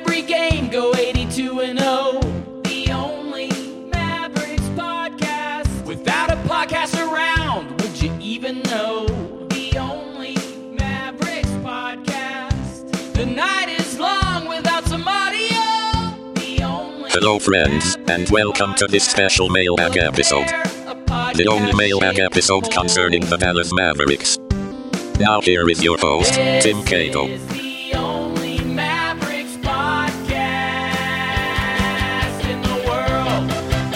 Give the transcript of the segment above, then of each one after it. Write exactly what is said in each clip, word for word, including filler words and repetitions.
every game, go eighty-two and oh. The only Mavericks podcast. Without a podcast around, would you even know? The only Mavericks podcast. The night is long without some audio. The only Hello friends, and welcome to this special mailbag episode. The only mailbag episode concerning the Dallas Mavericks. Now here is your host, Tim Cato. This is the only Mavericks podcast in the world.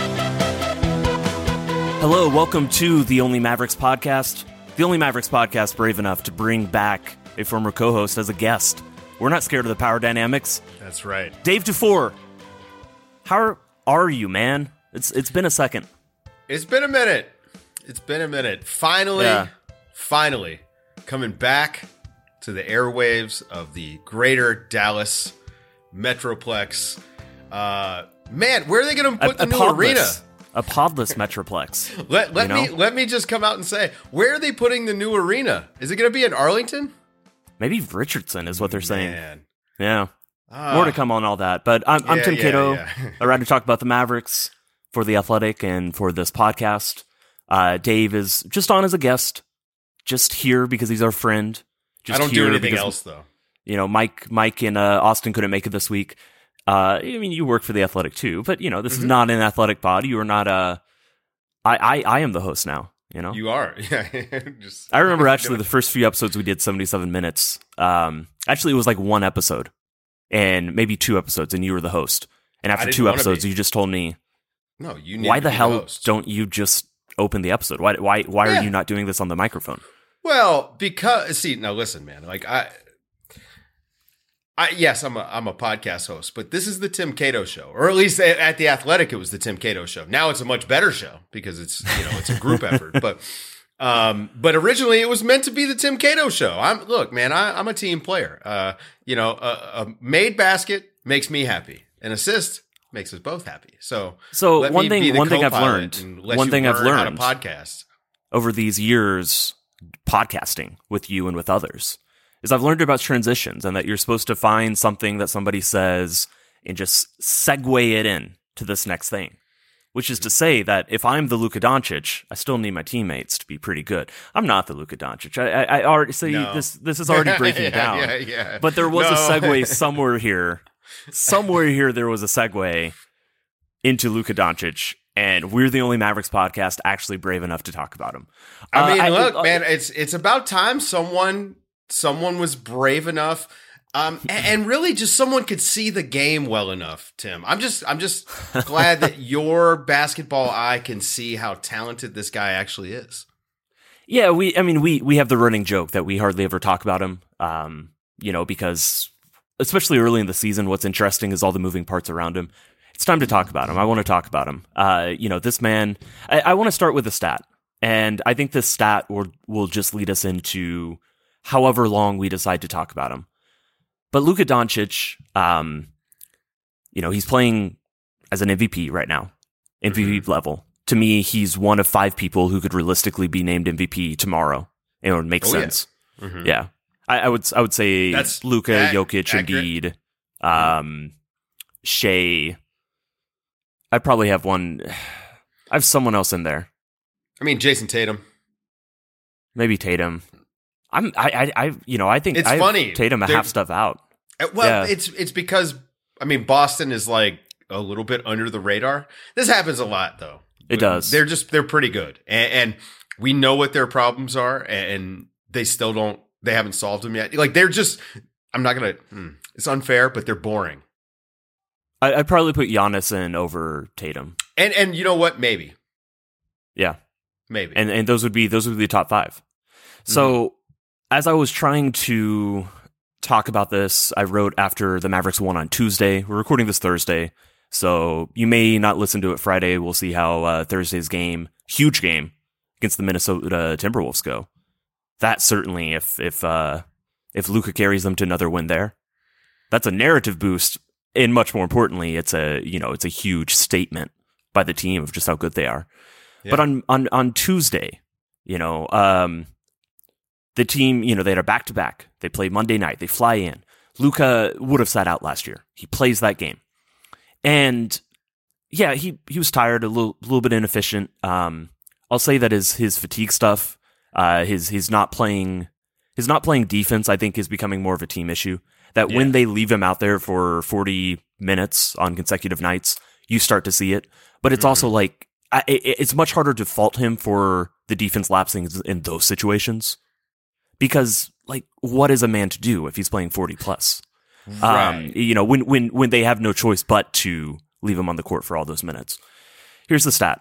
Hello, welcome to the Only Mavericks podcast. The Only Mavericks podcast brave enough to bring back a former co-host as a guest. We're not scared of the power dynamics. That's right. Dave Dufour, how are you, man? It's it's been a second. It's been a minute. It's been a minute. Finally, Yeah. finally, coming back to the airwaves of the greater Dallas Metroplex. Uh, man, where are they going to put a, the a new podless, arena? A podless Metroplex. Let, let you know? me let me just come out and say, where are they putting the new arena? Is it going to be in Arlington? Maybe Richardson is what they're saying. Man. Yeah. Ah. More to come on all that. But I'm, I'm Yeah, Tim yeah, Cato. yeah. Around to talk about the Mavericks for The Athletic and for this podcast. Uh, Dave is just on as a guest, just here because he's our friend. Just I don't here do anything because, else, though. You know, Mike, Mike and uh, Austin couldn't make it this week. Uh, I mean, you work for The Athletic too, but you know, this Mm-hmm. is not an athletic pod. You are not a. I, I, I am the host now. You know, You are. Yeah. just, I remember actually the first few episodes we did seventy-seven minutes. Um, actually, it was like one episode and maybe two episodes, and you were the host. And after didn't two wanna episodes, be. you just told me, No, you need why to the be hell host. don't you just open the episode? Why why why Yeah. are you not doing this on the microphone? Well, because see, now listen, man. Like I, I yes, I'm a I'm a podcast host, but this is the Tim Cato show, or at least at, at the Athletic, it was the Tim Cato show. Now it's a much better show because it's you know it's a group effort. But um, but originally it was meant to be the Tim Cato show. I'm look, man. I, I'm a team player. Uh, you know, a, a made basket makes me happy. An assist makes us both happy. So So let one me thing be the one thing I've co-pilot learned and let one you thing I've learn how to learned podcast. over these years podcasting with you and with others is I've learned about transitions and that you're supposed to find something that somebody says and just segue it in to this next thing. Which is to say that if I'm the Luka Doncic, I still need my teammates to be pretty good. I'm not the Luka Doncic. I, I, I already see No. this. This is already breaking Yeah, down. yeah, yeah. But there was a No. segue somewhere here. Somewhere here, there was a segue into Luka Doncic, and we're the only Mavericks podcast actually brave enough to talk about him. I mean, Uh, look, uh, man, it's it's about time someone someone was brave enough, um, a- and really just someone could see the game well enough. Tim, I'm just I'm just glad that your basketball eye can see how talented this guy actually is. Yeah, we. I mean, we we have the running joke that we hardly ever talk about him. Um, you know, because especially early in the season, what's interesting is all the moving parts around him. It's time to talk about him. I want to talk about him. Uh, you know, this man. I, I want to start with a stat, and I think this stat will will just lead us into however long we decide to talk about him. But Luka Doncic, um, you know, he's playing as an M V P right now, M V P Mm-hmm. level. To me, he's one of five people who could realistically be named M V P tomorrow. It would make Oh, yeah. sense. Mhm. Yeah, I, I would. I would say That's Luka, ac- Jokic, accurate. Embiid, um, Shea. I probably have one. I have someone else in there. I mean, Jason Tatum. Maybe Tatum. I'm. I. I. I you know. I think It's I have funny. Tatum a They're- half stuff out. Uh, Well, Yeah. it's it's because I mean Boston is like a little bit under the radar. This happens a lot, though. It does. They're just they're pretty good, and, and we know what their problems are, and they still don't. They haven't solved them yet. Like they're just. I'm not gonna. hmm, It's unfair, but they're boring. I, I'd probably put Giannis in over Tatum. And and you know what? Maybe, Yeah. maybe. and and those would be those would be the top five. So as I was trying to talk about this, I wrote after the Mavericks won on Tuesday. We're recording this Thursday, so you may not listen to it Friday. We'll see how uh, Thursday's game, huge game against the Minnesota Timberwolves, go. That certainly, if if uh, if Luka carries them to another win there, that's a narrative boost. And much more importantly, it's a you know it's a huge statement by the team of just how good they are. Yeah. But on, on, on Tuesday, you know, um, the team, you know, they had a back to back. They play Monday night. They fly in. Luka would have sat out last year. He plays that game. And yeah, he, he was tired, a little, little bit inefficient. Um, I'll say that his, his fatigue stuff, uh, his, his not playing, his not playing defense, I think is becoming more of a team issue. That yeah. when they leave him out there for forty minutes on consecutive nights, you start to see it. But it's mm-hmm. also like, I, it, it's much harder to fault him for the defense lapsing in those situations. Because, like, what is a man to do if he's playing forty plus? Right. Um, you know, when, when, when they have no choice but to leave him on the court for all those minutes. Here's the stat.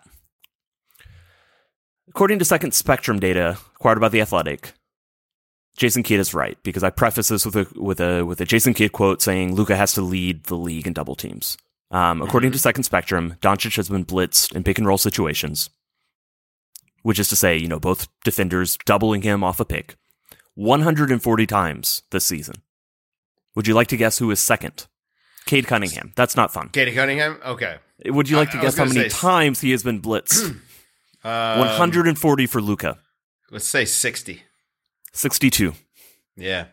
According to Second Spectrum data acquired by The Athletic, Jason Kidd is right, because I preface this with a with a with a Jason Kidd quote saying Luka has to lead the league in double teams. Um, according mm-hmm. to Second Spectrum, Doncic has been blitzed in pick and roll situations, which is to say, you know, both defenders doubling him off a pick, one hundred forty times this season. Would you like to guess who is second? Cade Cunningham. That's not fun. Cade Cunningham? Okay. Would you like to I, guess I how many say... times he has been blitzed? um, one hundred forty for Luka. Let's say sixty. sixty-two. Yeah.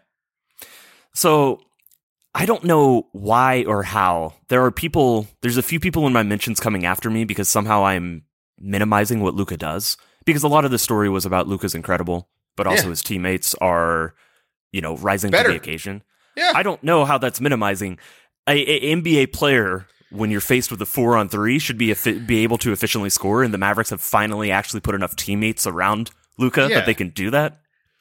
So I don't know why or how. There are people, there's a few people in my mentions coming after me because somehow I'm minimizing what Luka does. Because a lot of the story was about Luka's incredible, but also yeah. his teammates are, you know, rising Better. to the occasion. Yeah. I don't know how that's minimizing. A, a N B A player, when you're faced with a four on three, should be be able to efficiently score, and the Mavericks have finally actually put enough teammates around Luka yeah. that they can do that.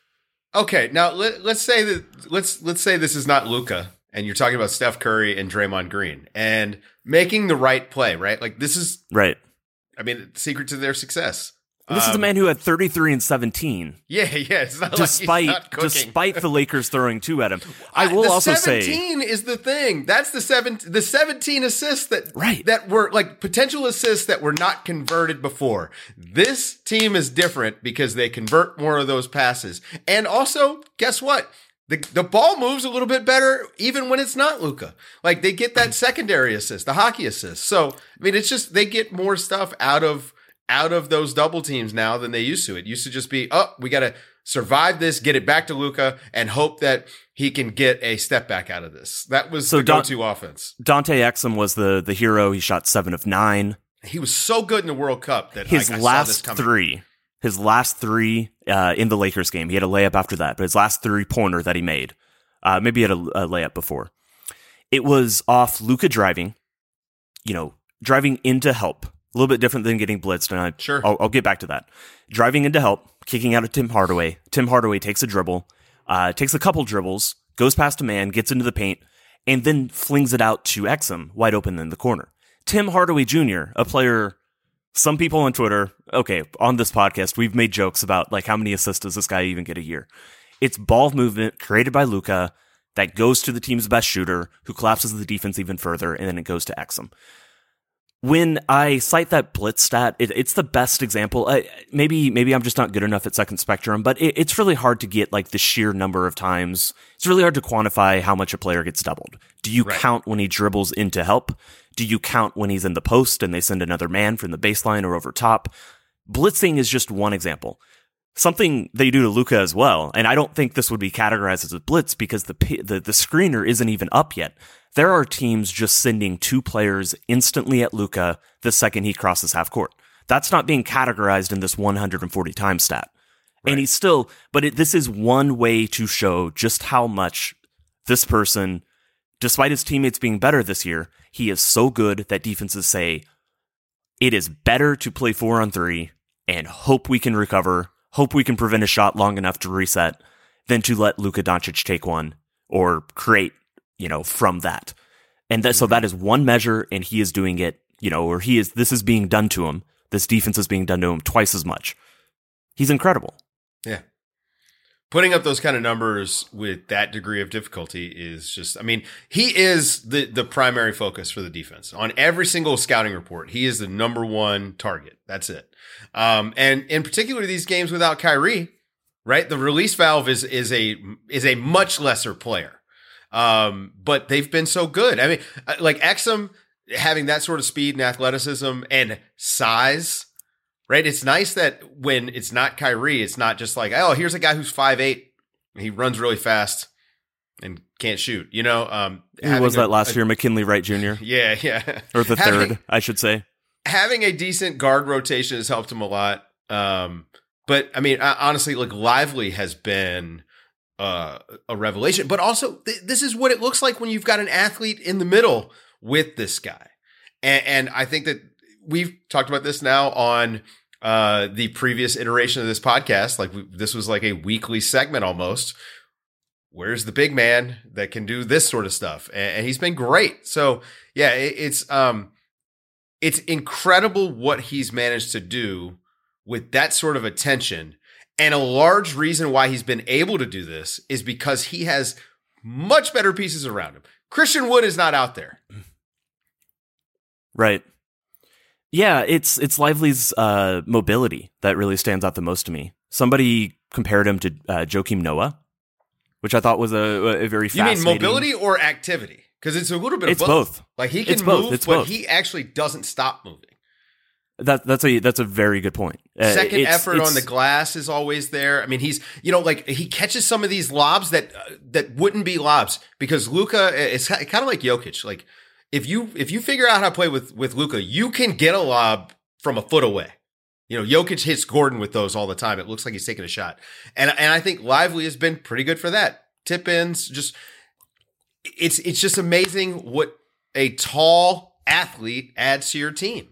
Okay, now let, let's say that let's let's say this is not Luka, and you're talking about Steph Curry and Draymond Green, and making the right play, right? Like this is right. I mean, the secret to their success. And this um, is a man who had thirty-three and seventeen. Yeah, yeah. It's not despite like he's not cooking. despite the Lakers throwing two at him. I will the also seventeen say seventeen is the thing. That's the seven the seventeen assists that right. that were like potential assists that were not converted before. This team is different because they convert more of those passes. And also, guess what? The the ball moves a little bit better even when it's not Luka. Like they get that secondary assist, the hockey assist. So, I mean, it's just they get more stuff out of out of those double teams now than they used to. It used to just be, oh, we got to survive this, get it back to Luka, and hope that he can get a step back out of this. That was so the go-to Don- offense. Dante Exum was the the hero. He shot seven of nine. He was so good in the World Cup that his I, I last saw this coming. three, his last three uh, in the Lakers game, he had a layup after that, but his last three pointer that he made, uh, maybe he had a, a layup before. It was off Luka driving, you know, driving into help. A little bit different than getting blitzed, and I, sure. I'll, I'll get back to that. Driving into help, kicking out of Tim Hardaway. Tim Hardaway takes a dribble, uh, takes a couple dribbles, goes past a man, gets into the paint, and then flings it out to Exum, wide open in the corner. Tim Hardaway Junior, a player, some people on Twitter, okay, on this podcast, we've made jokes about like how many assists does this guy even get a year. It's ball movement created by Luka that goes to the team's best shooter, who collapses the defense even further, and then it goes to Exum. When I cite that blitz stat, it, it's the best example. I, maybe maybe I'm just not good enough at Second Spectrum, but it, it's really hard to get like the sheer number of times. It's really hard to quantify how much a player gets doubled. Do you right. count when he dribbles into help? Do you count when he's in the post and they send another man from the baseline or over top? Blitzing is just one example. Something they do to Luka as well, and I don't think this would be categorized as a blitz because the the, the screener isn't even up yet. There are teams just sending two players instantly at Luka the second he crosses half court. That's not being categorized in this one hundred forty times stat. Right. And he's still, but it, this is one way to show just how much this person, despite his teammates being better this year, he is so good that defenses say it is better to play four on three and hope we can recover, hope we can prevent a shot long enough to reset, than to let Luka Doncic take one or create, you know, from that. And that, so that is one measure, and he is doing it, you know, or he is, this is being done to him. This defense is being done to him twice as much. He's incredible. Yeah. Putting up those kind of numbers with that degree of difficulty is just, I mean, he is the, the primary focus for the defense. On every single scouting report, he is the number one target. That's it. Um, and in particular, these games without Kyrie, right? The release valve is, is a, is a much lesser player. Um, but they've been so good. I mean, like Exum having that sort of speed and athleticism and size, right? It's nice that when it's not Kyrie, it's not just like, oh, here's a guy who's five eight. He runs really fast. and can't shoot. You know, um, who was that a, last a, year? McKinley Wright Junior Yeah, yeah, or the having, third, I should say. Having a decent guard rotation has helped him a lot. Um, but I mean, honestly, like Lively has been uh, a revelation. But also, th- this is what it looks like when you've got an athlete in the middle with this guy. And, and I think that we've talked about this now on uh, the previous iteration of this podcast. Like we, this was like a weekly segment almost. Where's the big man that can do this sort of stuff? And, and he's been great. So yeah, it, it's um, it's incredible what he's managed to do with that sort of attention. And a large reason why he's been able to do this is because he has much better pieces around him. Christian Wood is not out there. Right. Yeah, it's it's Lively's uh, mobility that really stands out the most to me. Somebody compared him to uh, Joakim Noah, which I thought was a, a very fascinating... You mean mobility or activity? Because it's a little bit of it's both. both. Like he can it's move, both. It's but both. he actually doesn't stop moving. That that's a that's a very good point. Uh, Second it's, effort it's, on the glass is always there. I mean, he's you know like he catches some of these lobs that uh, that wouldn't be lobs because Luka is kind of like Jokic. Like if you if you figure out how to play with with Luka, you can get a lob from a foot away. You know, Jokic hits Gordon with those all the time. It looks like he's taking a shot, and and I think Lively has been pretty good for that. Tip ins, just it's it's just amazing what a tall athlete adds to your team.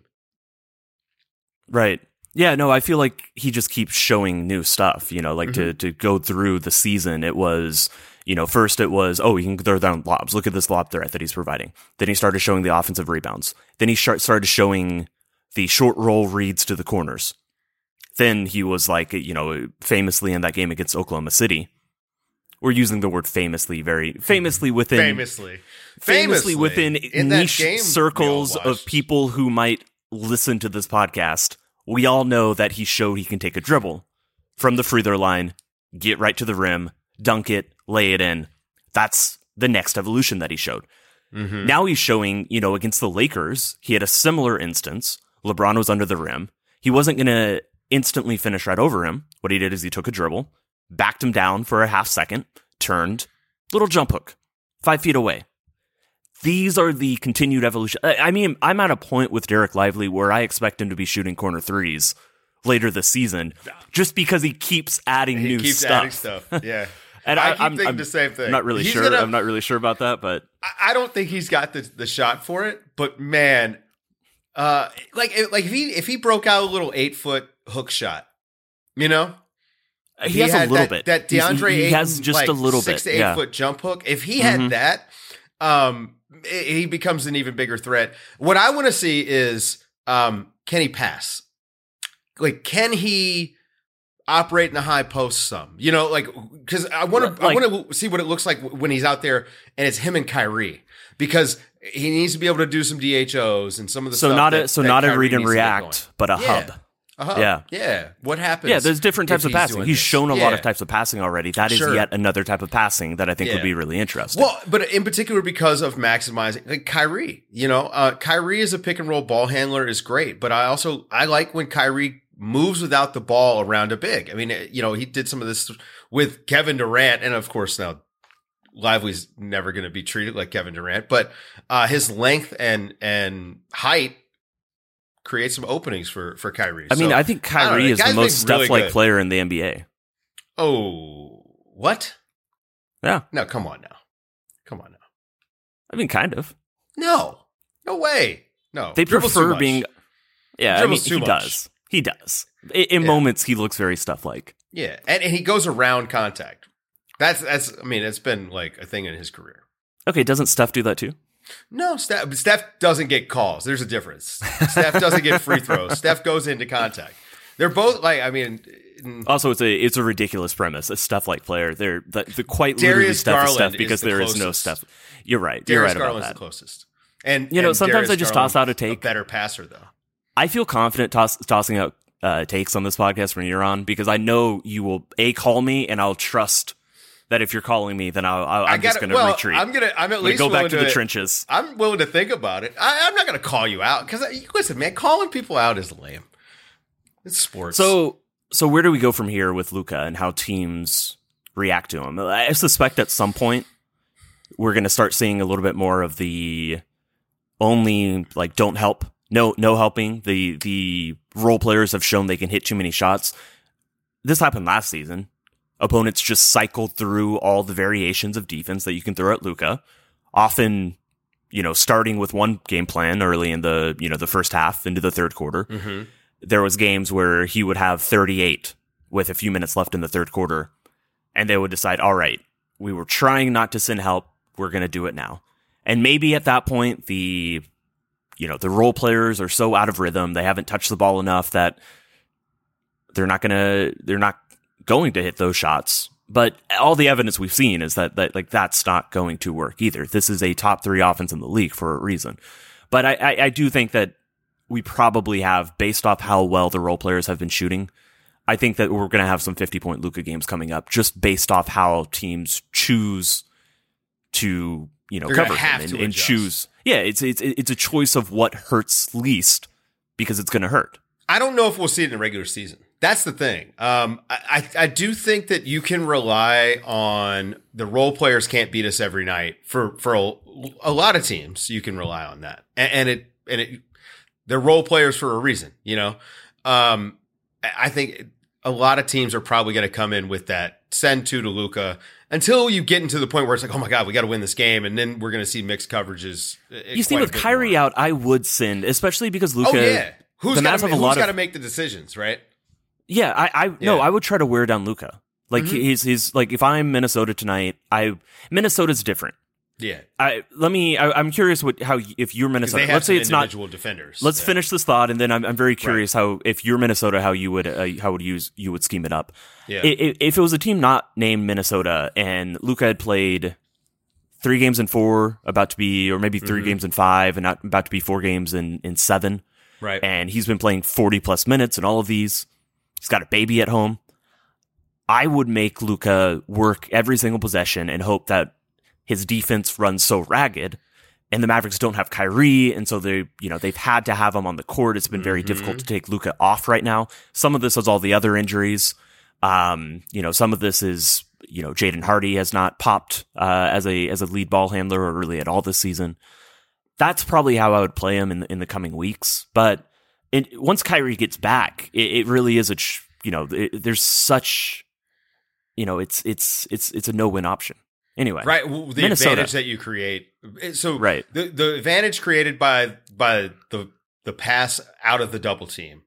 Right. Yeah, no, I feel like he just keeps showing new stuff, you know, like Mm-hmm. to, to go through the season. It was, you know, first it was, oh, he can throw down lobs. Look at this lob threat that he's providing. Then he started showing the offensive rebounds. Then he sh- started showing the short roll reads to the corners. Then he was like, you know, famously in that game against Oklahoma City. We're using the word famously very famously within Famously. famously, Famously, within in that niche game we all circles of watched. people who might listen to this podcast. We all know that he showed he can take a dribble from the free throw line, get right to the rim, dunk it, lay it in. That's the next evolution that he showed. Mm-hmm. Now he's showing, you know, against the Lakers, he had a similar instance. LeBron was under the rim. He wasn't going to instantly finish right over him. What he did is he took a dribble, backed him down for a half second, turned, little jump hook, five feet away. These are the continued evolution. I mean, I'm at a point with Derek Lively where I expect him to be shooting corner threes later this season, just because he keeps adding He new keeps stuff. adding stuff. Yeah. And I I, keep I'm, thinking I'm the same thing. I'm not really He's sure. gonna- I'm not really sure about that, but I- I don't think he's got the, the shot for it, but man, uh, like like if he if he broke out a little eight foot hook shot, you know, he, has a had little that, bit. That He's- DeAndre he, he has Ayton, just like, a little six bit. to eight Yeah. foot jump hook. If he had Mhm. that, um, i- he becomes an even bigger threat. What I want to see is, um, can he pass? Like, can he operate in the high post some? You know, like because I want to, Like- I want to see what it looks like when he's out there and it's him and Kyrie because he needs to be able to do some D H Os and some of the So stuff not that, a so that not a Kyrie read and needs to get react, going. but a Yeah. hub. Uh-huh. Yeah. Yeah. What happens? Yeah, there's different types if of he's passing. doing He's this? shown a Yeah. lot of types of passing already. That is Sure. yet another type of passing that I think Yeah. would be really interesting. Well, but in particular because of maximizing like Kyrie, you know, uh, Kyrie as a pick and roll ball handler is great, but I also, I like when Kyrie moves without the ball around a big. I mean, you know, he did some of this with Kevin Durant, and of course now Lively's never going to be treated like Kevin Durant, but uh, his length and, and height create some openings for, for Kyrie. I mean, So, I think I don't know, Kyrie the is the guy's most been really Steph-like good. player in the N B A. Oh, what? Yeah, No, come on now. Come on now. I mean, kind of. No, no way. No, They Dribbles too prefer much. being. Yeah, I mean, Dribbles too he much. does. He does. In, in Yeah. moments, he looks very Steph-like. Yeah, and, and he goes around contact. That's that's. I mean, it's been like a thing in his career. Okay, doesn't Steph do that too? No, Steph, Steph doesn't get calls. There's a difference. Steph doesn't get free throws. Steph goes into contact. They're both like. I mean, Also, it's a it's a ridiculous premise. A Steph-like player, they're the, the quite literally Darius Steph is Garland Steph is because the there is no closest. Steph. You're right. You're Darius right about Garland's that. the closest. And You know, and sometimes Darius I just toss Garland's out a take. A better passer though. I feel confident toss, tossing out uh, takes on this podcast when you're on because I know you will a call me and I'll trust that if you're calling me, then I'll, I'll, I'm I just gotta- going to well, retreat. I'm gonna. I'm at I'm gonna least go back willing to the trenches. I'm willing to think about it. I, I'm not going to call you out because listen, man, calling people out is lame. It's sports. So, so where do we go from here with Luka and how teams react to him? I suspect at some point we're going to start seeing a little bit more of the only like don't help, no no helping. The the role players have shown they can hit too many shots. This happened last season. Opponents just cycled through all the variations of defense that you can throw at Luka, often, you know, starting with one game plan early in the, you know, the first half into the third quarter. Mm-hmm. There was games where he would have thirty-eight with a few minutes left in the third quarter, and they would decide, all right, we were trying not to send help, we're going to do it now. And maybe at that point, the, you know, the role players are so out of rhythm, they haven't touched the ball enough that they're not going to, they're not going to hit those shots. But all the evidence we've seen is that, that like that's not going to work either. This is a top three offense in the league for a reason. But I, I, I do think that we probably have, based off how well the role players have been shooting, I think that we're going to have some fifty-point Luka games coming up, just based off how teams choose to, you know, They're cover have him to and, and adjust. choose. Yeah, it's it's it's a choice of what hurts least because it's going to hurt. I don't know if we'll see it in the regular season. That's the thing. Um, I, I I do think that you can rely on the role players can't beat us every night for for a, a lot of teams. You can rely on that, and, and it and it they're role players for a reason. You know, um, I think a lot of teams are probably going to come in with that send two to Luka until you get into the point where it's like, oh my god, we got to win this game, and then we're going to see mixed coverages. You see, with Kyrie more. out, I would send, especially because Luka. Oh yeah, who's the got Mavs have a who's lot got to of make the decisions, right? Yeah, I, I no, Yeah. I would try to wear down Luka. Like Mm-hmm. he's he's like if I'm Minnesota tonight, I Minnesota's different. Yeah, I let me. I, I'm curious what how if you're because Minnesota. they have Let's say some it's not. individual defenders. Let's Yeah. finish this thought, and then I'm I'm very curious how if you're Minnesota, how you would uh, how would use you would scheme it up. Yeah. I- I- If it was a team not named Minnesota and Luka had played three games in four, about to be, or maybe 3 Mm-hmm. games in five, and not about to be four games in in seven, Right. and he's been playing forty plus minutes in all of these. He's got a baby at home. I would make Luka work every single possession and hope that his defense runs so ragged, and the Mavericks don't have Kyrie, and so they, you know, they've had to have him on the court. It's been very Mm-hmm. difficult to take Luka off right now. Some of this is all the other injuries. Um, you know, some of this is, you know, Jaden Hardy has not popped uh, as a as a lead ball handler or really at all this season. That's probably how I would play him in the, in the coming weeks. But it, once Kyrie gets back, it, it really is a ch- you know, it, there's such, you know, it's it's it's it's a no win option. Anyway, Right, well, the Minnesota. advantage that you create. So, Right. the the advantage created by by the the pass out of the double team,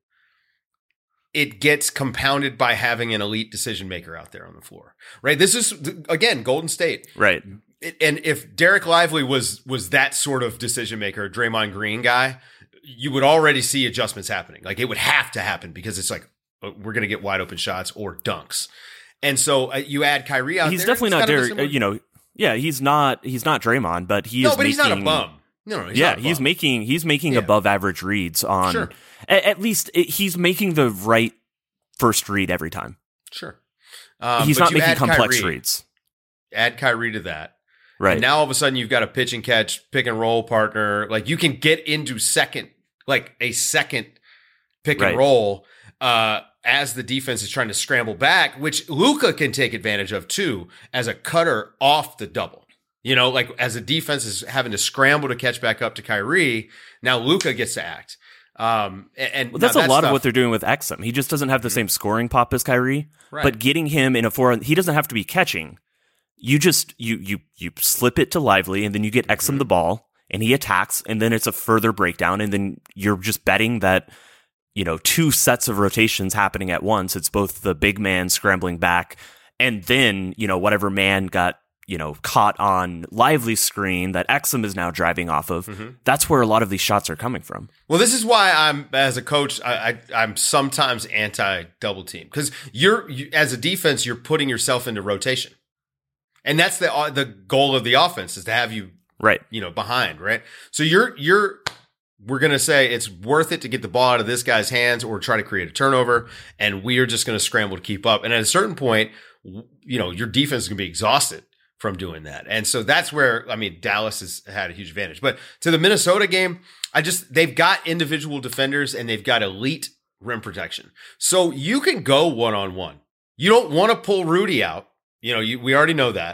it gets compounded by having an elite decision maker out there on the floor. Right. This is again Golden State. right. It- and if Derek Lively was was that sort of decision maker, Draymond Green guy, you would already see adjustments happening. Like it would have to happen because it's like uh, we're going to get wide open shots or dunks. And so uh, you add Kyrie out He's there. definitely it's not kind of a Derek. similar- uh, You know, yeah, he's not. He's not Draymond, but he no, is. but he's making, not a bum. No, no, he's yeah, not a he's bum. making he's making Yeah. above average reads on. Sure. At, at least it, he's making the right first read every time. Sure. Um, he's but not you making add complex Kyrie, reads. Add Kyrie to that. Right. And now all of a sudden you've got a pitch and catch, pick and roll partner. Like you can get into second, like a second pick Right. and roll uh, as the defense is trying to scramble back, which Luka can take advantage of too as a cutter off the double. You know, like as a defense is having to scramble to catch back up to Kyrie, now Luka gets to act. Um, and and Well, that's now a lot stuff- of what they're doing with Exum. He just doesn't have the same scoring pop as Kyrie, Right. but getting him in a four, he doesn't have to be catching. You just you you you slip it to Lively, and then you get Exum the ball, and he attacks, and then it's a further breakdown, and then you're just betting that, you know, two sets of rotations happening at once. It's both the big man scrambling back, and then, you know, whatever man got, you know, caught on Lively's screen that Exum is now driving off of. That's where a lot of these shots are coming from. Well, this is why I'm, as a coach, I, I, I'm sometimes anti double team because you're, you, as a defense, you're putting yourself into rotation, and that's the uh, the goal of the offense is to have you, Right. you know, behind, right? So you're you're we're gonna say it's worth it to get the ball out of this guy's hands or try to create a turnover, and we are just gonna scramble to keep up. And at a certain point, you know, your defense is gonna be exhausted from doing that. And so that's where, I mean, Dallas has had a huge advantage. But to the Minnesota game, I just, they've got individual defenders and they've got elite rim protection. So you can go one-on-one. You don't want to pull Rudy out. You know, you, we already know that.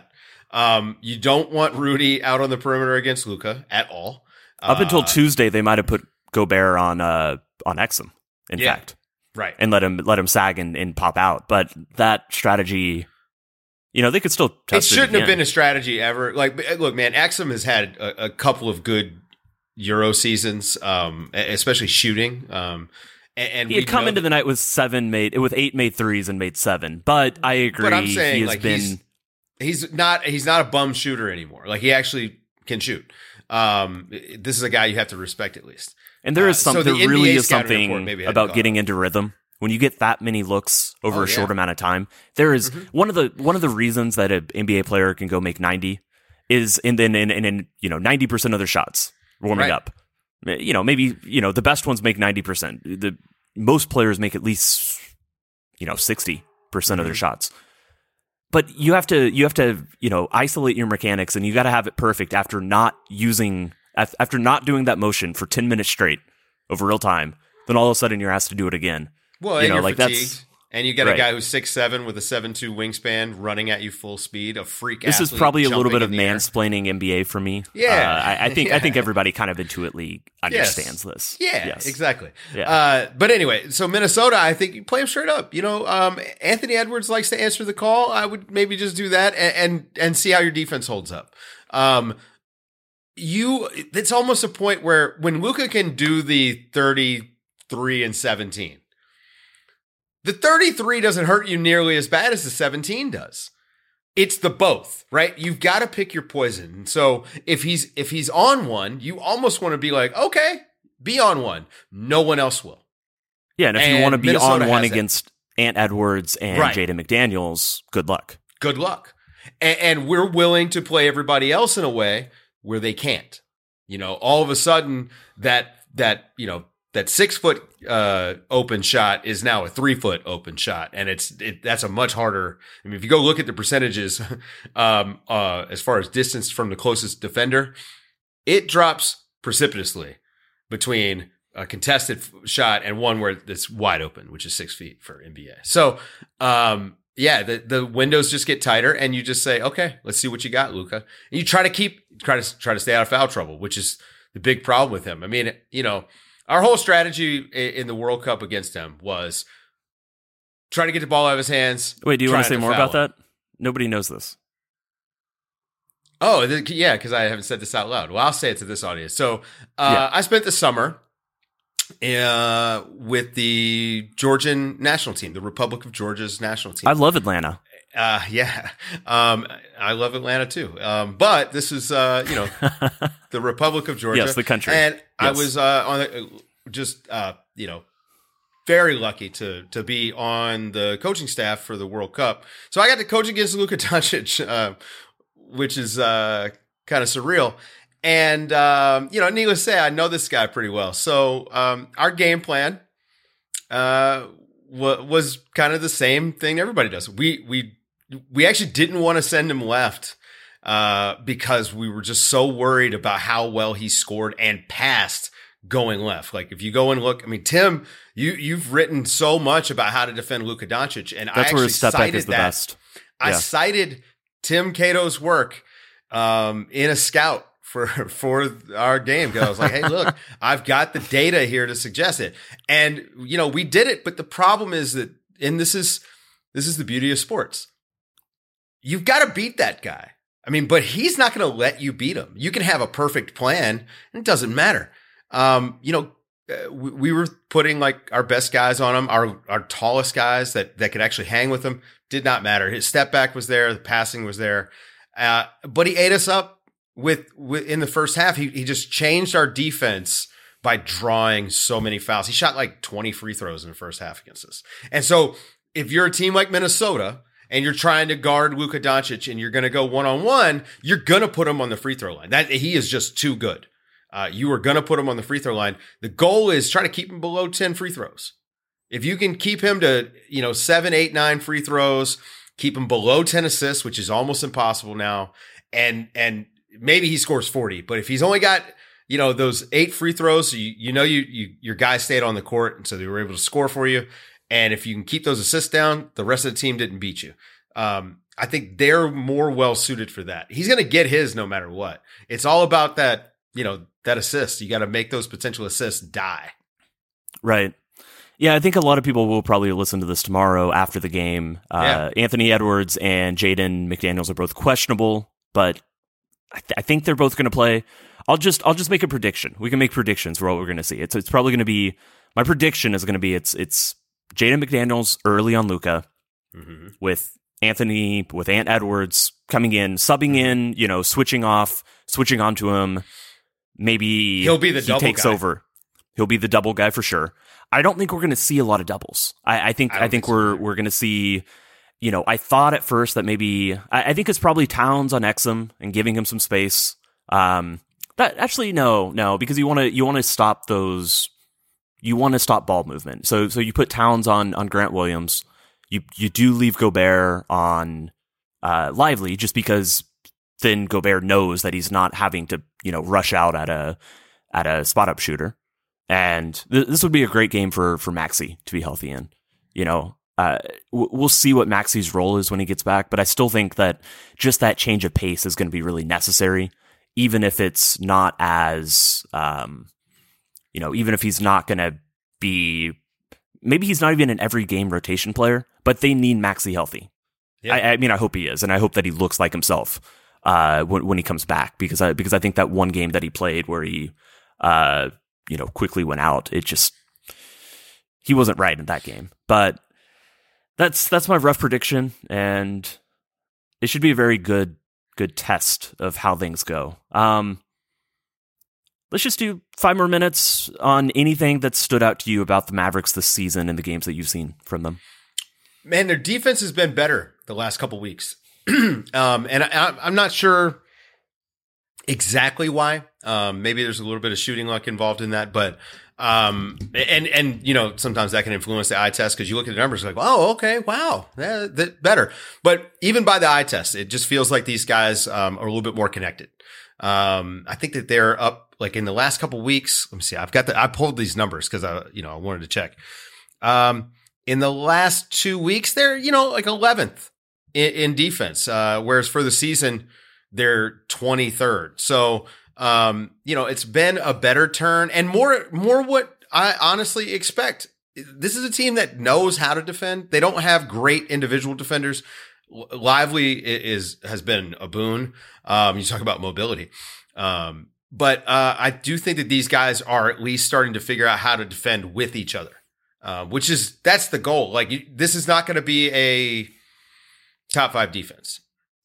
Um, you don't want Rudy out on the perimeter against Luka at all. Up until Uh, Tuesday, they might have put Gobert on uh, on Exum, in Yeah. fact. Right. And let him let him sag and, and pop out. But that strategy, you know, they could still It test it. shouldn't have again. been a strategy ever. Like, look, man, Exum has had a, a couple of good Euro seasons, um, especially shooting. Um, and, and He we had come know into the night with seven made with eight made threes and made seven. But I agree. But I'm saying, he has like, been he's he's not he's not a bum shooter anymore. Like, he actually can shoot. Um, this is a guy you have to respect at least. and there is uh, so some the there N B A really is scouting something report maybe hadn't about caught getting up. into rhythm. When you get that many looks over Oh, a short yeah. amount of time, there is- Mhm. one of the one of the reasons that an N B A player can go make ninety is in then in, in, in you know ninety percent of their shots warming Right. up. You know, maybe you know the best ones make ninety percent. The most players make at least you know sixty percent of their Mhm. shots. But you have to you have to you know isolate your mechanics, and you got to have it perfect after not using af- after not doing that motion for ten minutes straight over real time. Then all of a sudden you're asked to do it again. Well, you and know, you're like fatigued. that's And you got a right. guy who's six seven with a seven two wingspan running at you full speed, a freak this is athlete probably a little jumping bit of in the air. mansplaining N B A for me. Yeah. Uh, I, I think I Yeah. think everybody kind of intuitively understands this. Yeah, Yes. exactly. Yeah. Uh, but anyway, so Minnesota, I think you play him straight up. You know, um, Anthony Edwards likes to answer the call. I would maybe just do that and and, and see how your defense holds up. Um, you, it's almost a point where when Luka can do the thirty-three and seventeen, the thirty-three doesn't hurt you nearly as bad as the seventeen does. It's the both, right? You've got to pick your poison. So if he's if he's on one, you almost want to be like, okay, be on one. No one else will. Yeah, and if you And want to be Minnesota on one has that. against Ant Edwards and Right. Jaden McDaniels, good luck. Good luck. And, and we're willing to play everybody else in a way where they can't. You know, all of a sudden that that you know that six foot uh, open shot is now a three foot open shot, and it's it, that's a much harder. I mean, if you go look at the percentages, um, uh, as far as distance from the closest defender, it drops precipitously between a contested f- shot and one where it's wide open, which is six feet for N B A. So, um, yeah, the the windows just get tighter, and you just say, okay, let's see what you got, Luka. And you try to keep try to try to stay out of foul trouble, which is the big problem with him. I mean, you know. Our whole strategy in the World Cup against him was try to get the ball out of his hands. Wait, do you try want to say not more foul about him. that? Nobody knows this. Oh, th- yeah, because I haven't said this out loud. Well, I'll say it to this audience. So uh, Yeah. I spent the summer uh, with the Georgian national team, the Republic of Georgia's national team. I love Atlanta. Uh, yeah. Um, I love Atlanta too. Um, but this is, uh, you know, the Republic of Georgia. Yes, the country. And I Yes. was, uh, on the, just, uh, you know, very lucky to, to be on the coaching staff for the World Cup. So I got to coach against Luka Doncic, uh, which is, uh, kind of surreal. And, um, you know, needless to say, I know this guy pretty well. So, um, our game plan, uh, wa- was kind of the same thing everybody does. We, we, we actually didn't want to send him left uh, because we were just so worried about how well he scored and passed going left. Like if you go and look, I mean, Tim, you you've written so much about how to defend Luka Doncic, and I That's actually where his step back cited is the that. best. I Yeah. cited Tim Cato's work um, in a scout for for our game because I was like, hey, look, I've got the data here to suggest it, and you know we did it. But the problem is that, and this is this is the beauty of sports. You've got to beat that guy. I mean, but he's not going to let you beat him. You can have a perfect plan, and it doesn't matter. Um, you know, uh, we, we were putting like our best guys on him, our our tallest guys that that could actually hang with him. Did not matter. His step back was there, the passing was there, uh, but he ate us up with, with in the first half. He he just changed our defense by drawing so many fouls. He shot like twenty free throws in the first half against us, and so if you're a team like Minnesota and you're trying to guard Luka Doncic and you're going to go one-on-one, you're going to put him on the free throw line. That he is just too good. Uh, you are going to put him on the free throw line. The goal is try to keep him below ten free throws. If you can keep him to, you know, seven, eight, nine free throws, keep him below ten assists, which is almost impossible now. And, and maybe he scores forty, but if he's only got, you know, those eight free throws, you, you know, you, you, your guys stayed on the court. And so they were able to score for you. And if you can keep those assists down, the rest of the team didn't beat you. Um, I think they're more well suited for that. He's going to get his no matter what. It's all about that, you know, that assist. You got to make those potential assists die. Right. Yeah, I think a lot of people will probably listen to this tomorrow after the game. Uh, yeah. Anthony Edwards and Jaden McDaniels are both questionable, but I, th- I think they're both going to play. I'll just I'll just make a prediction. We can make predictions for what we're going to see. It's it's probably going to be, my prediction is going to be it's it's Jaden McDaniels early on Luka, mm-hmm. with Anthony, with Ant Edwards coming in, subbing in, you know, switching off, switching onto him. Maybe he'll be the he double takes guy. over. He'll be the double guy for sure. I don't think we're going to see a lot of doubles. I, I think I, I think, think we're so. we're going to see. You know, I thought at first that maybe I, I think it's probably Towns on Exum and giving him some space. Um, that actually no, no, because you want to you want to stop those. You want to stop ball movement. So so you put Towns on on Grant Williams. You you do leave Gobert on uh, Lively just because then Gobert knows that he's not having to, you know, rush out at a at a spot up shooter. And th- this would be a great game for for Maxey to be healthy in. You know, uh, w- we'll see what Maxey's role is when he gets back, but I still think that just that change of pace is going to be really necessary, even if it's not as, um, you know, even if he's not going to be, maybe he's not even an every game rotation player, but they need Maxey healthy. Yeah. I, I mean, I hope he is, and I hope that he looks like himself uh, when, when he comes back, because I because I think that one game that he played where he, uh, you know, quickly went out, it just, he wasn't right in that game. But that's that's my rough prediction, and it should be a very good good test of how things go. Um, let's just do five more minutes on anything that stood out to you about the Mavericks this season and the games that you've seen from them. Man, their defense has been better the last couple weeks. um, and I, I'm not sure exactly why. Um, maybe there's a little bit of shooting luck involved in that, but um, and and you know, sometimes that can influence the eye test because you look at the numbers like, oh, okay, wow, that, that better. But even by the eye test, it just feels like these guys um, are a little bit more connected. Um, I think that they're up like in the last couple weeks. Let me see. I've got the I pulled these numbers because I you know I wanted to check. Um, in the last two weeks, they're you know like eleventh in, in defense, uh, whereas for the season they're twenty-third. So. Um, you know, it's been a better turn and more, more what I honestly expect. This is a team that knows how to defend. They don't have great individual defenders. Lively is, has been a boon. Um, you talk about mobility. Um, but, uh, I do think that these guys are at least starting to figure out how to defend with each other. Uh, which is, that's the goal. Like you, this is not going to be a top five defense.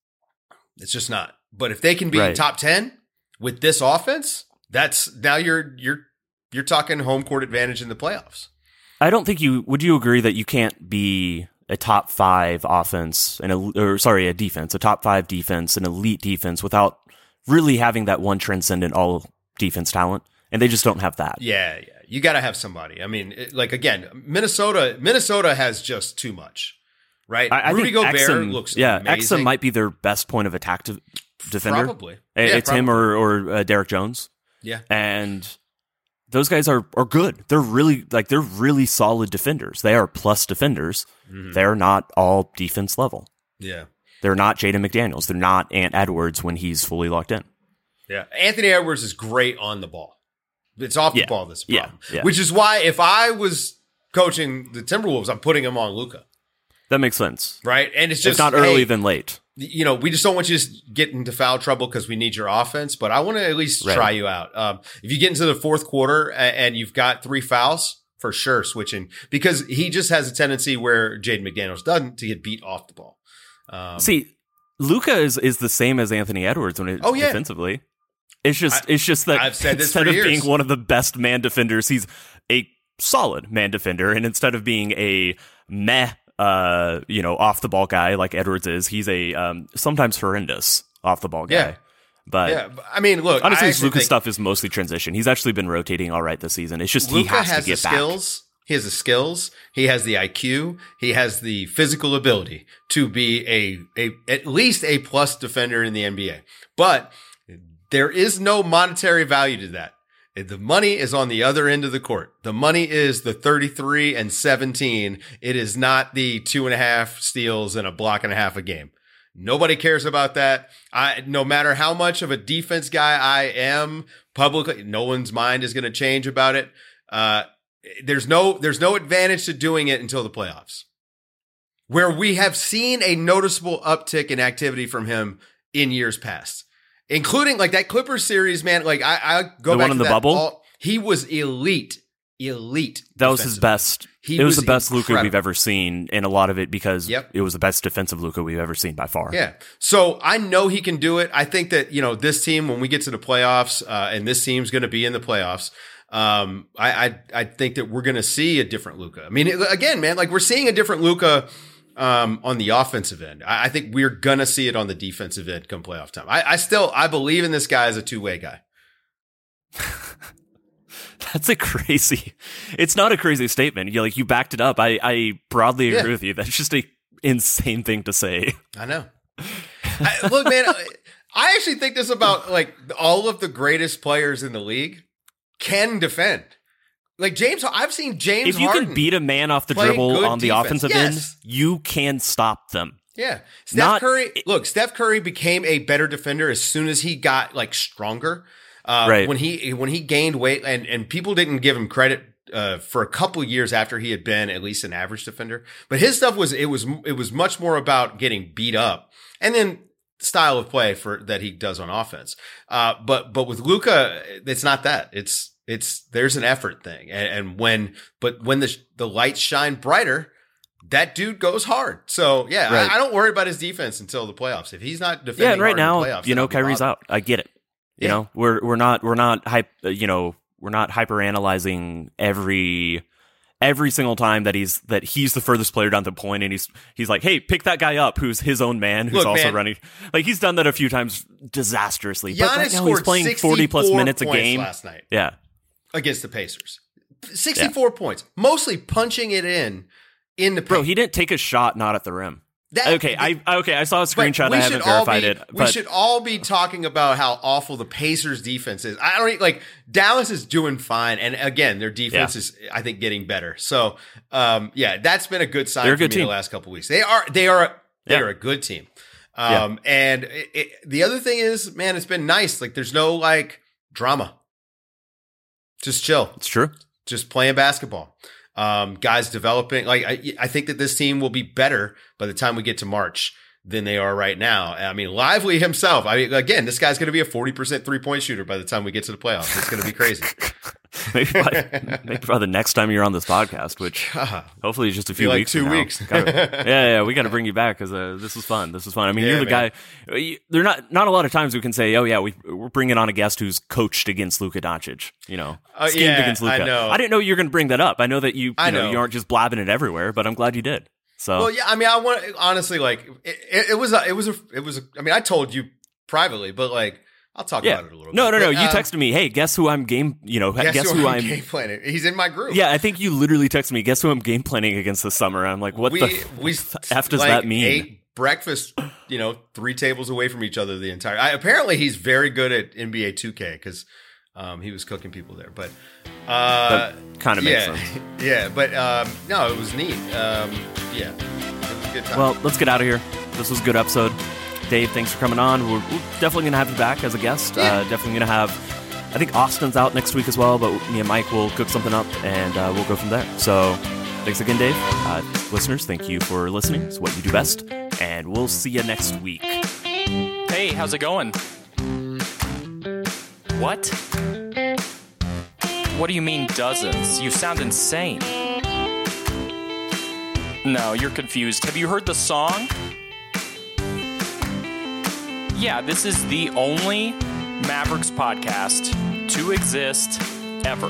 It's just not. But if they can be right. top ten, with this offense, that's now you're you're you're talking home court advantage in the playoffs. I don't think you would. You agree that you can't be a top five offense and a or sorry a defense, a top five defense, an elite defense without really having that one transcendent all defense talent, and they just don't have that. Yeah, yeah, you got to have somebody. I mean, it, like again, Minnesota, Minnesota has just too much, right? I, I Rudy think Gobert Exum, looks yeah, amazing. Exum might be their best point of attack to. Defender, probably. Yeah, it's probably. him or or uh, Derek Jones. Yeah, and those guys are are good. They're really like they're really solid defenders. They are plus defenders. Mm-hmm. They're not all defense level. Yeah, they're not Jaden McDaniels. They're not Ant Edwards when he's fully locked in. Yeah, Anthony Edwards is great on the ball. It's off the yeah. ball that's a problem. Yeah. Yeah. Which is why if I was coaching the Timberwolves, I'm putting him on Luka. That makes sense, right? And it's just if not early hey, than late. You know, we just don't want you to get into foul trouble because we need your offense, but I want to at least right. try you out. Um, if you get into the fourth quarter and you've got three fouls, for sure switching, because he just has a tendency where Jaden McDaniels doesn't to get beat off the ball. Um, See, Luka is, is the same as Anthony Edwards when it oh, yeah. defensively. It's just I, it's just that I've said this instead for of years. being one of the best man defenders, he's a solid man defender, and instead of being a meh Uh, you know, off the ball guy like Edwards is, he's a um, sometimes horrendous off the ball guy. Yeah. But yeah, I mean, look, honestly, I his Luka think stuff is mostly transition. He's actually been rotating all right this season. It's just Luka he has, has to get the back. skills. He has the skills. He has the I Q. He has the physical ability to be a a at least a plus defender in the N B A. But there is no monetary value to that. The money is on the other end of the court. The money is the thirty-three and seventeen. It is not the two and a half steals and a block and a half a game. Nobody cares about that. I, no matter how much of a defense guy I am publicly, no one's mind is going to change about it. Uh, there's no, there's no advantage to doing it until the playoffs, where we have seen a noticeable uptick in activity from him in years past, including like that Clippers series, man. Like I, I go the back one in to the that bubble. All, he was elite, elite. That was his best. He it was, was the best Luka incredible. we've ever seen, and a lot of it because Yep. it was the best defensive Luka we've ever seen by far. Yeah. So I know he can do it. I think that, you know, this team, when we get to the playoffs, uh, and this team's going to be in the playoffs, um, I, I, I think that we're going to see a different Luka. I mean, it, again, man, like we're seeing a different Luka, um, on the offensive end. I, I think we're going to see it on the defensive end come playoff time. I, I still, I believe in this guy as a two-way guy. That's a crazy. It's not a crazy statement. You like you backed it up. I, I broadly agree Yeah. with you. That's just a insane thing to say. I know. I, look, man, I actually think this about like all of the greatest players in the league can defend. Like James, I've seen James. If you Harden can beat a man off the play dribble good on the defense. offensive Yes. end, you can stop them. Yeah. Steph Not- Curry, look, Steph Curry became a better defender as soon as he got like stronger. Uh, Right. When he, when he gained weight and, and people didn't give him credit, uh, for a couple of years after he had been at least an average defender, but his stuff was, it was, it was much more about getting beat up and then style of play for that he does on offense. Uh, but, but with Luka, it's not that. It's, it's, there's an effort thing. And, and when, but when the, the lights shine brighter, that dude goes hard. So yeah, Right. I, I don't worry about his defense until the playoffs. If he's not defending, Yeah, and right hard in now, the playoffs, you then know, I'll be Kyrie's bothered. out. I get it. You Yeah. know, we're we're not we're not hype. uh, You know, we're not hyper analyzing every every single time that he's that he's the furthest player down the point, and he's he's like, hey, pick that guy up who's his own man, who's Look, also man. running. Like he's done that a few times disastrously. but Giannis right now he's scored playing forty plus sixty-four minutes a points game last night Yeah, against the Pacers. sixty-four points, mostly punching it in in the paint. bro, he didn't take a shot not at the rim. That- okay, I okay, I saw a But screenshot. we I should haven't all verified be- it, We but should all be talking about how awful the Pacers defense is. I don't e, like Dallas is doing fine, and again, their defense Yeah. is, I think, getting better. So, um, yeah, that's been a good sign They're a for good me team. the last couple of weeks. They are, they are, they Yeah. are a good team. Um, and it, it, the other thing is, man, it's been nice. Like, there's no like drama. Just chill. it's true. Just playing basketball. Um, guys developing. Like, I, I think that this team will be better by the time we get to March than they are right now. I mean, Lively himself. I mean, again, this guy's going to be a forty percent three point shooter by the time we get to the playoffs. It's going to be crazy. maybe, by, maybe by the next time you're on this podcast, which God, hopefully just a few like weeks. two from now. weeks. Gotta- yeah, yeah, we got to bring you back because uh, this was fun. This was fun. I mean, Yeah, you're the man. guy. you- There not not a lot of times we can say, oh yeah, we we're bringing on a guest who's coached against Luka Doncic. You know, Uh, schemed yeah, against Luka. I know. I didn't know you were going to bring that up. I know that you. you I know, know. you aren't just blabbing it everywhere, but I'm glad you did. So Well, yeah. I mean, I want honestly, like, it, it, it was, a, it was, a, it was. A, I mean, I told you privately, but like, I'll talk yeah, about it a little. no, bit. no, no. But, You uh, texted me, hey, guess who I'm game. You know, Guess, guess, who, who I'm I'm. game planning? He's in my group. Yeah, I think you literally texted me, guess who I'm game planning against this summer. I'm like, what we, the we f does like, that mean? Ate breakfast, you know, three tables away from each other the entire. I, apparently, he's very good at N B A two K because um, he was cooking people there. But uh, That kind of makes yeah, sense. yeah. But um, no, it was neat. Um, yeah, it was a good time. Well, let's get out of here. This was a good episode. Dave, thanks for coming on. We're, we're definitely going to have you back as a guest. Yeah. Uh, definitely going to have, I think Austin's out next week as well, but me and Mike will cook something up and uh, we'll go from there. So thanks again, Dave. Uh, listeners, thank you for listening. It's what you do best. And we'll see you next week. Hey, how's it going? What? What do you mean dozens? You sound insane. No, you're confused. Have you heard the song? Yeah, this is the only Mavericks podcast to exist ever.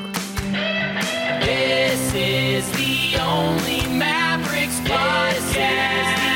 This is the only Mavericks podcast.